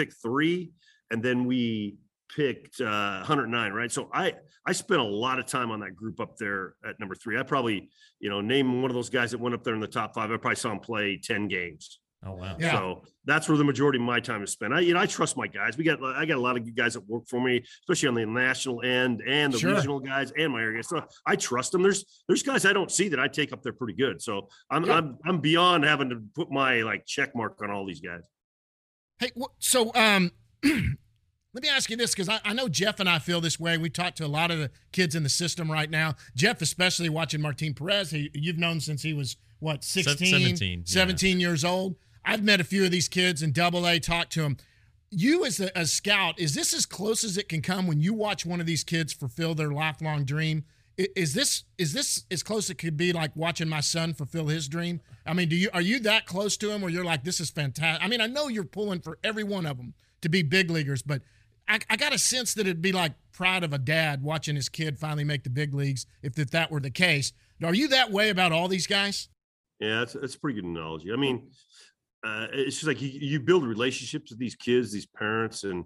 3, and then we picked 109, right? So I spent a lot of time on that group up there at number 3. I probably, name one of those guys that went up there in the top 5. I probably saw him play 10 games. Oh, wow. Yeah. So that's where the majority of my time is spent. I trust my guys. I got a lot of good guys that work for me, especially on the national end and the regional guys and my area. So I trust them. There's guys I don't see that I take up there pretty good. So I'm beyond having to put my check mark on all these guys. Hey, so let me ask you this, because I know Jeff and I feel this way. We talk to a lot of the kids in the system right now. Jeff, especially watching Martin Perez. You've known since he was, 16? 17 years old. I've met a few of these kids in AA, talked to them. You as a scout, is this as close as it can come when you watch one of these kids fulfill their lifelong dream? Is this as close as it could be like watching my son fulfill his dream? I mean, are you that close to him where you're like, this is fantastic? I mean, I know you're pulling for every one of them to be big leaguers, but I got a sense that it'd be like proud of a dad watching his kid finally make the big leagues if that were the case. Are you that way about all these guys? Yeah, that's a pretty good analogy. I mean, it's just like you build relationships with these kids, these parents, and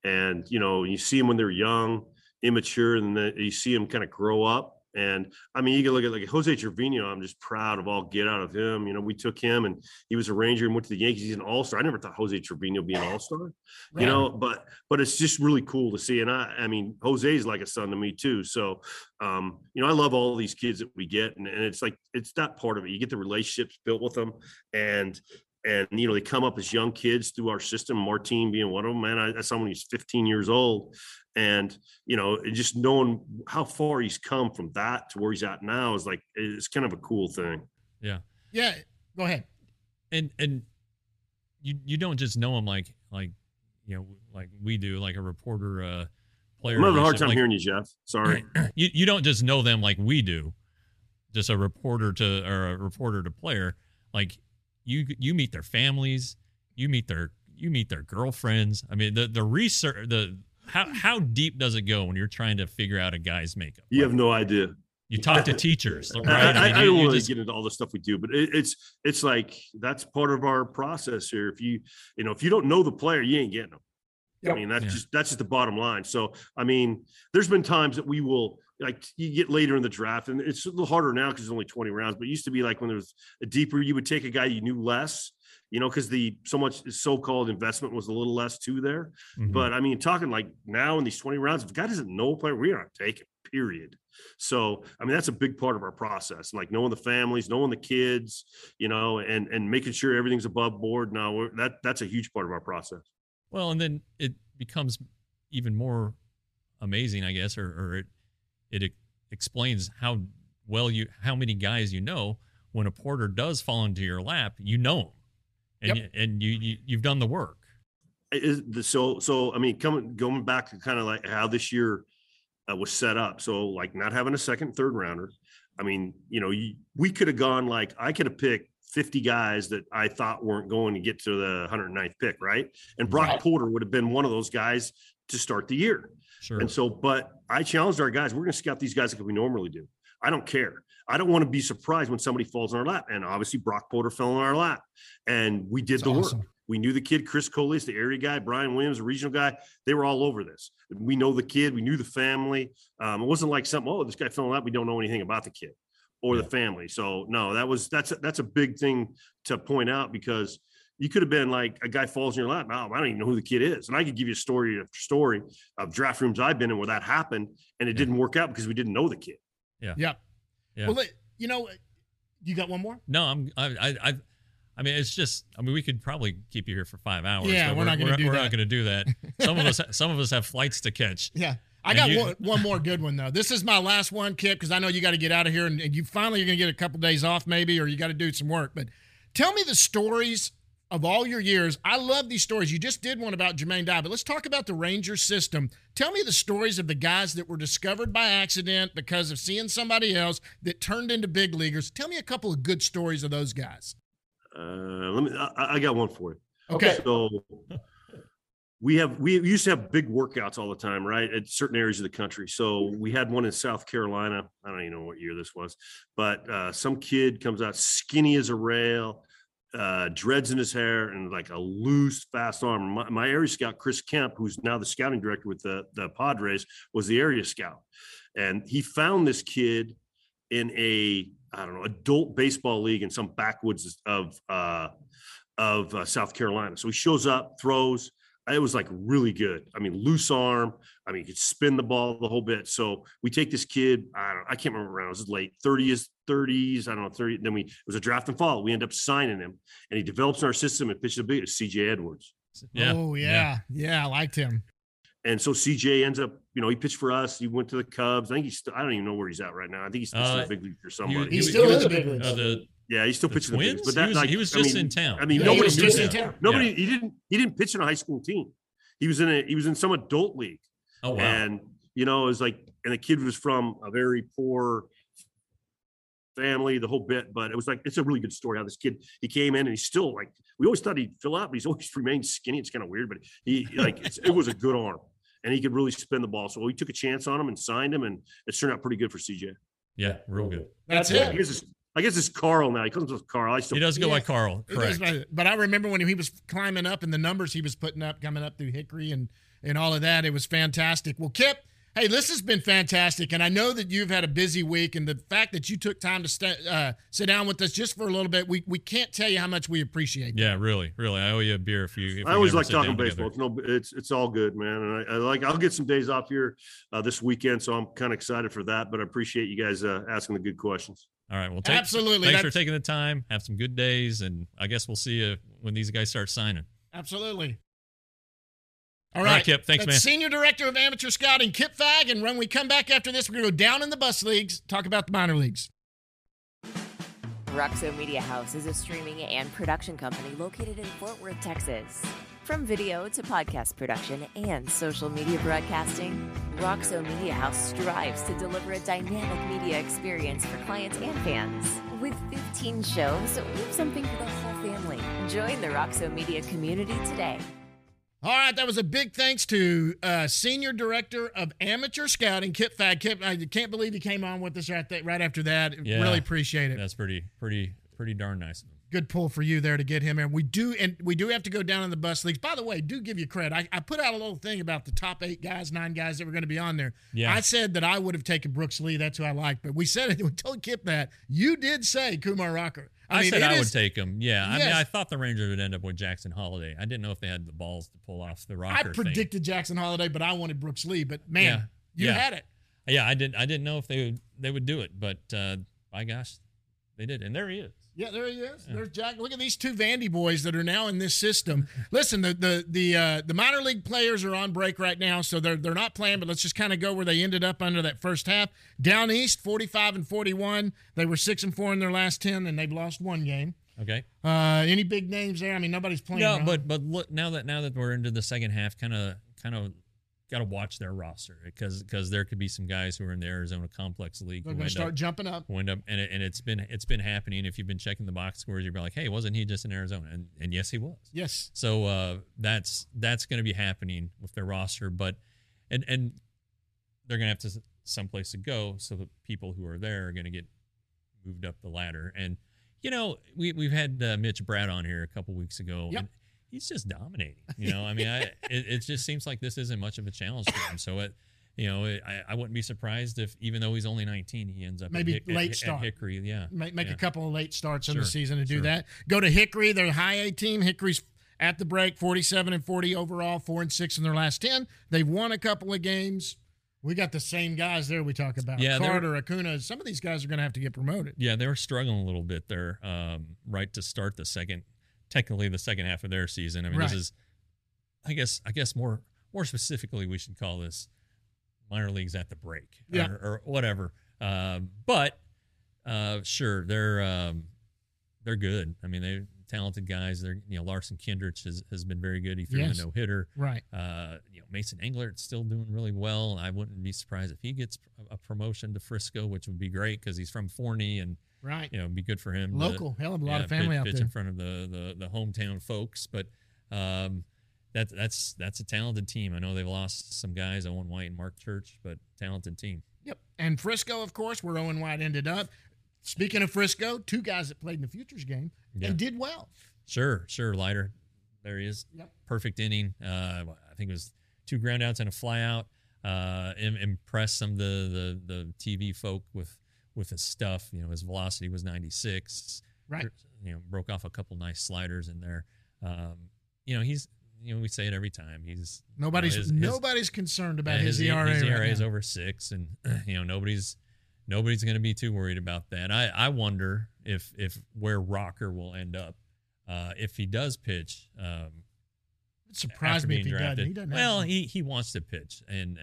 you see them when they're young, immature, and then you see them kind of grow up. And I mean, you can look at like Jose Trevino. I'm just proud of all get out of him. We took him, and he was a Ranger and went to the Yankees. He's an all-star. I never thought Jose Trevino would be an all-star, right. But it's just really cool to see. And I mean, Jose's like a son to me too. So, I love all these kids that we get, and it's like, it's that part of it. You get the relationships built with them, and they come up as young kids through our system, Martin being one of them. Man, I saw when he's 15 years old. And, just knowing how far he's come from that to where he's at now is it's kind of a cool thing. Yeah. Yeah. Go ahead. And you don't just know him like we do, like a reporter, player. I'm having a hard time hearing you, Jeff. Sorry. You don't just know them like we do, just a reporter to player. Like you meet their families, you meet their girlfriends. I mean, the research, how deep does it go when you're trying to figure out a guy's makeup? You have no idea. You talk to teachers, right? I don't really get into all the stuff we do, but it's like that's part of our process here. If you don't know the player, you ain't getting them. Yep. I mean, that's just the bottom line. So, I mean, there's been times that we will, like, you get later in the draft, and it's a little harder now because there's only 20 rounds, but it used to be like when there was a deeper, you would take a guy you knew less, because so much so-called investment was a little less too there. Mm-hmm. But I mean, talking like now in these 20 rounds, if a guy doesn't know a player, we are not taking, period. So, I mean, that's a big part of our process, like knowing the families, knowing the kids, and making sure everything's above board. Now that's a huge part of our process. Well, and then it becomes even more amazing, I guess, or it explains how many guys you know. When a porter does fall into your lap, you know him, and you've done the work. So I mean, going back to kind of like how this year was set up. So like not having a second, third rounder. I mean, we could have gone I could have picked 50 guys that I thought weren't going to get to the 109th pick, right? And Brock Porter would have been one of those guys to start the year. Sure. And so, but I challenged our guys. We're going to scout these guys like we normally do. I don't care. I don't want to be surprised when somebody falls in our lap. And obviously Brock Porter fell in our lap, and we did the work. We knew the kid, Chris Colis, the area guy, Brian Williams, the regional guy. They were all over this. We know the kid. We knew the family. It wasn't like something, this guy fell in lap. We don't know anything about the kid or the family. So no, that's a big thing to point out, because you could have been like a guy falls in your lap. I don't even know who the kid is. And I could give you a story after story of draft rooms I've been in where that happened, and it didn't work out because we didn't know the kid. Yeah. Well, you got one more? No, I mean, it's just. I mean, we could probably keep you here for 5 hours. Yeah, but we're not going to do that. We're not going to do that. Some of us have flights to catch. Yeah, I got one more good one though. This is my last one, Kip, because I know you got to get out of here, and you finally are going to get a couple days off, maybe, or you got to do some work. But tell me the stories of all your years. I love these stories. You just did one about Jermaine Dye, but let's talk about the Ranger system. Tell me the stories of the guys that were discovered by accident because of seeing somebody else that turned into big leaguers. Tell me a couple of good stories of those guys. I got one for you. Okay. So we used to have big workouts all the time, right? At certain areas of the country. So we had one in South Carolina. I don't even know what year this was, but some kid comes out skinny as a rail, dreads in his hair, and like a loose, fast arm. My area scout, Chris Kemp, who's now the scouting director with the Padres, was the area scout. And he found this kid in adult baseball league in some backwoods of South Carolina. So he shows up, throws. It was like really good. I mean, loose arm. I mean, he could spin the ball the whole bit. So we take this kid. I can't remember around. It was late 30s. I don't know, 30. Then it was a draft and fall. We end up signing him, and he develops in our system and pitches a big CJ Edwards. Yeah. Oh yeah. I liked him. And so CJ ends up, he pitched for us. He went to the Cubs. I think I don't even know where he's at right now. I think he's still in the big league for somebody. He's still in the big league. Yeah, he's still pitching the bigs. But he was just in town. I mean, nobody knew that. Nobody. He didn't pitch in a high school team. He was in some adult league. Oh wow. And it was like, and the kid was from a very poor family, the whole bit. But it was like, it's a really good story how this kid, he came in and he's still like, we always thought he'd fill out, but he's always remained skinny. It's kind of weird, but it was a good arm. And he could really spin the ball. So we took a chance on him and signed him, and it turned out pretty good for CJ. Yeah, real good. That's it. I guess it's Carl now. He calls himself Carl. He does go by Carl. Correct. But I remember when he was climbing up and the numbers he was putting up, coming up through Hickory and all of that, it was fantastic. Well, Kip, hey, this has been fantastic. And I know that you've had a busy week, and the fact that you took time to sit down with us just for a little bit, we can't tell you how much we appreciate that. Yeah, really. I owe you a beer if you. I always like talking baseball. It's all good, man. And I'll get some days off here this weekend, so I'm kind of excited for that. But I appreciate you guys asking the good questions. All right. Well, absolutely. Thanks for taking the time. Have some good days, and I guess we'll see you when these guys start signing. Absolutely. All right, Kip. Thanks, man. Senior Director of Amateur Scouting, Kip Fagg. And when we come back after this, we're going to go down in the bus leagues, talk about the minor leagues. Roxo Media House is a streaming and production company located in Fort Worth, Texas. From video to podcast production and social media broadcasting, Roxo Media House strives to deliver a dynamic media experience for clients and fans. With 15 shows, we have something for the whole family. Join the Roxo Media community today. All right, that was a big thanks to Senior Director of Amateur Scouting, Kip Fagg. Kip, I can't believe he came on with us right after that. Yeah, really appreciate it. That's pretty darn nice. Good pull for you there to get him in. We do have to go down in the bus leagues. By the way, do give you credit. I put out a little thing about the top 9 guys that were going to be on there. Yeah. I said that I would have taken Brooks Lee. That's who I liked. But we said it. We told Kip that. You did say Kumar Rocker. I said I would take him. Yeah. Yes. I mean, I thought the Rangers would end up with Jackson Holiday. I didn't know if they had the balls to pull off the Rocker thing. I predicted Jackson Holiday, but I wanted Brooks Lee. But, man, you had it. Yeah, I didn't know if they would do it. But, by gosh, they did. And there he is. Yeah, there he is. There's Jack. Look at these two Vandy boys that are now in this system. Listen, the minor league players are on break right now, so they're not playing. But let's just kind of go where they ended up under that first half. Down east, 45-41. They were 6-4 in their last 10, and they've lost one game. Okay. Any big names there? I mean, nobody's playing. No, wrong. but look, now that we're into the second half, kind of got to watch their roster because there could be some guys who are in the Arizona Complex League they're who going to start jumping up. and it's been happening. If you've been checking the box scores, you're like, hey, wasn't he just in Arizona? And yes, he was. Yes. So that's going to be happening with their roster, but and they're going to have to someplace to go, so the people who are there are going to get moved up the ladder. And we've had Mitch Brad on here a couple weeks ago. Yep. And he's just dominating. I mean, it just seems like this isn't much of a challenge for him. So I wouldn't be surprised if, even though he's only 19, he ends up maybe at late start. Hickory. Yeah, make a couple of late starts in the Sure, season to do sure. that. Go to Hickory. They're a high A team. Hickory's at the break, 47-40 overall, 4-6 in their last 10. They've won a couple of games. We got the same guys there we talk about. Yeah, Carter, Acuna. Some of these guys are going to have to get promoted. Yeah, they were struggling a little bit there, right to start the second half of their season. I mean, Right. This is, I guess more specifically, we should call this minor leagues at the break, Yeah. or whatever. But sure, they're good. I mean, they're talented guys. They're Larson Kindrich has been very good. He threw Yes. a no-hitter. Right. Mason Englert's still doing really well. I wouldn't be surprised if he gets a promotion to Frisco, which would be great because he's from Forney and Right. it'd be good for him. Local. Hell of a lot of family out pitch there. in front of the hometown folks. But that's a talented team. I know they've lost some guys, Owen White and Mark Church, but talented team. Yep. And Frisco, of course, where Owen White ended up. Speaking of Frisco, two guys that played in the Futures game Yeah. and did well. Sure. Leiter. There he is. Yep. Perfect inning. I think it was 2 groundouts and a flyout. Impressed some of the TV folk with his stuff. His velocity was 96. Right. Broke off a couple nice sliders in there. He's we say it every time. He's Nobody's concerned about his ERA. His ERA right is now. over 6, and nobody's going to be too worried about that. I wonder if where Rocker will end up if he does pitch. It surprised me if he doesn't. He doesn't. Well, he wants to pitch, and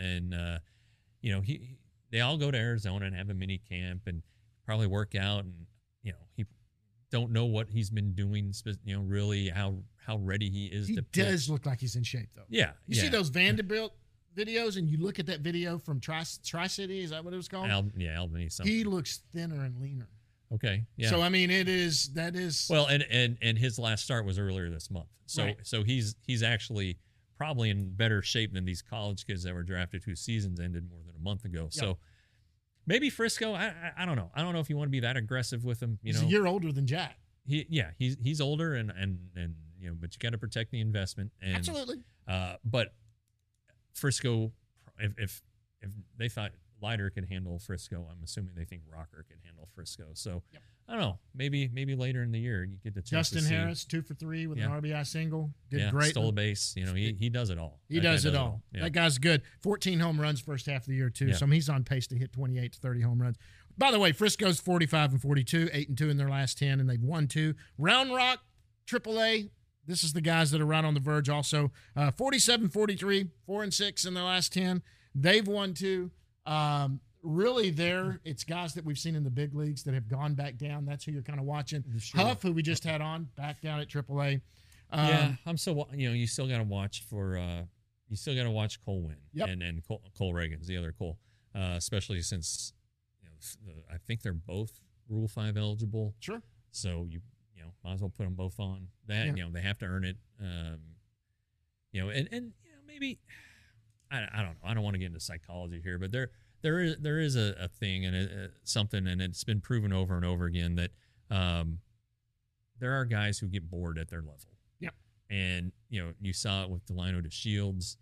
they all go to Arizona and have a mini camp and probably work out, and he don't know what he's been doing. Really how ready he is. He to pitch. does look like he's in shape though. Yeah, You see those Vanderbilt videos, and you look at that video from Tri-City. Is that what it was called? Albany. Something. He looks thinner and leaner. Okay. Yeah. So I mean, that is Well, and his last start was earlier this month. So Right. so he's actually probably in better shape than these college kids that were drafted whose seasons ended more than a month ago. Yep. So maybe Frisco. I don't know. I don't know if you want to be that aggressive with him. he's a year older than Jack. He's older and but you got to protect the investment. And, Absolutely. But Frisco, if they thought Leiter could handle Frisco, I'm assuming they think Rocker could handle Frisco. So Yep. I don't know. Maybe later in the year you get the chance Justin to see. Harris, 2 for 3 with Yeah. an RBI single. Did great. Stole a base. He does it all. He That guy does it all. Yeah. That guy's good. 14 home runs first half of the year, too. Yeah. So he's on pace to hit 28 to 30 home runs. By the way, Frisco's 45-42, 8-2 in their last 10, and they've won 2. Round Rock, AAA. This is the guys that are right on the verge also. 47-43, 4-6 in their last 10. They've won 2. Really, it's guys that we've seen in the big leagues that have gone back down. That's who you're kind of watching. Sure. Huff, who we just had on, back down at AAA. I'm still. You still got to watch for. You still got to watch Cole Winn. Yep. And Cole Reagan's the other Cole, especially since I think they're both Rule 5 eligible. Sure. So you might as well put them both on that. Yeah. They have to earn it. And maybe I don't know. I don't want to get into psychology here, but there is a thing and something, and it's been proven over and over again that there are guys who get bored at their level. Yep. And you saw it with Delino DeShields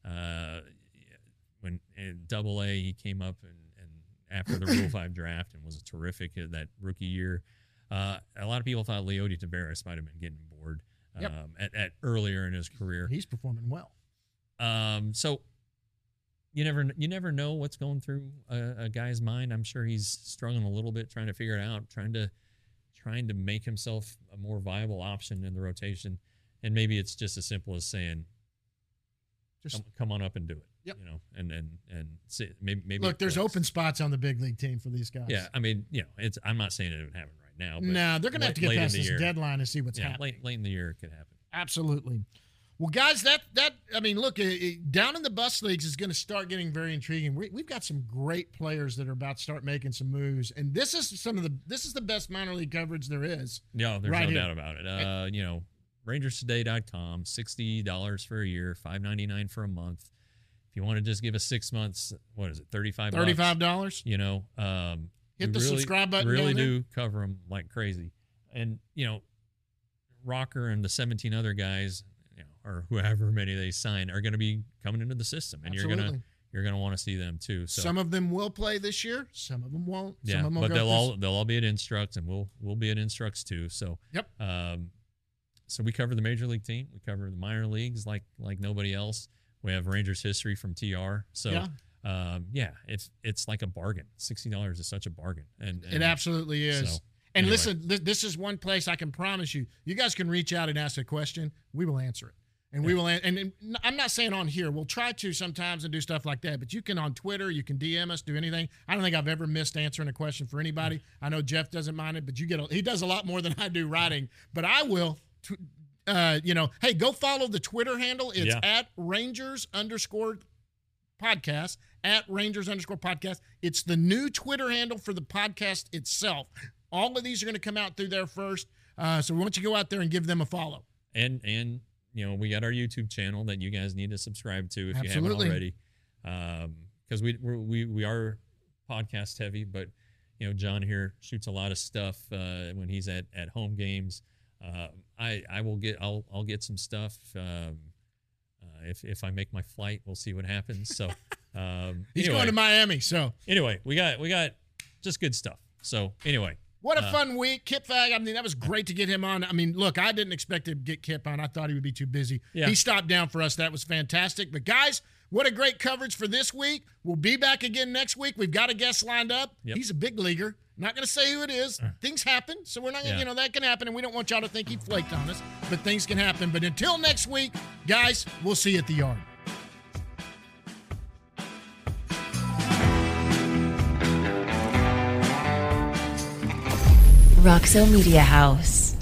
when in AA he came up and after the Rule 5 draft and was terrific that rookie year. A lot of people thought Leody Taveras might have been getting bored at earlier in his career. He's performing well. So you never know what's going through a guy's mind. I'm sure he's struggling a little bit trying to figure it out, trying trying to make himself a more viable option in the rotation. And maybe it's just as simple as saying, just come on up and do it. Yep. And see, maybe look, there's open spots on the big league team for these guys. Yeah, I mean, I'm not saying it would happen right now. But no, they're going to have to get past this deadline and see what's happening. Late in the year, it could happen. Absolutely. Well, guys, look, down in the bus leagues is going to start getting very intriguing. We've got some great players that are about to start making some moves, and this is the best minor league coverage there is. No, there's no doubt about it. RangersToday.com, $60 for a year, $5.99 for a month. If you want to just give us 6 months, what is it, $35? $35. Hit the subscribe button. Really do cover them like crazy, and Rocker and the 17 other guys, or whoever many they sign, are going to be coming into the system, and Absolutely. you're gonna want to see them too. So some of them will play this year, some of them won't. Yeah, some of them but they'll all be at Instructs, and we'll be at Instructs too. So yep. So we cover the major league team, we cover the minor leagues like nobody else. We have Rangers history from TR. So it's like a bargain. $60 is such a bargain, and it absolutely is. So, and listen, this is one place I can promise you. You guys can reach out and ask a question. We will answer it. And we will, and I'm not saying on here. We'll try to sometimes and do stuff like that. But you can on Twitter, you can DM us, do anything. I don't think I've ever missed answering a question for anybody. I know Jeff doesn't mind it, but he does a lot more than I do writing. But I will, hey, go follow the Twitter handle. It's at Rangers_podcast. At Rangers_podcast. It's the new Twitter handle for the podcast itself. All of these are going to come out through there first. So we want you to go out there and give them a follow. And we got our YouTube channel that you guys need to subscribe to if you haven't already. Because we are podcast heavy, but John here shoots a lot of stuff when he's at home games. I'll get some stuff. If I make my flight, we'll see what happens. So he's going to Miami. So anyway, we got just good stuff. So anyway. What a fun week. Kip Fag, I mean, that was great to get him on. I mean, look, I didn't expect to get Kip on. I thought he would be too busy. Yeah. He stopped down for us. That was fantastic. But, guys, what a great coverage for this week. We'll be back again next week. We've got a guest lined up. Yep. He's a big leaguer. Not going to say who it is. Things happen, so we're not going to, that can happen, and we don't want y'all to think he flaked on us. But things can happen. But until next week, guys, we'll see you at the yard. Roxo Media House.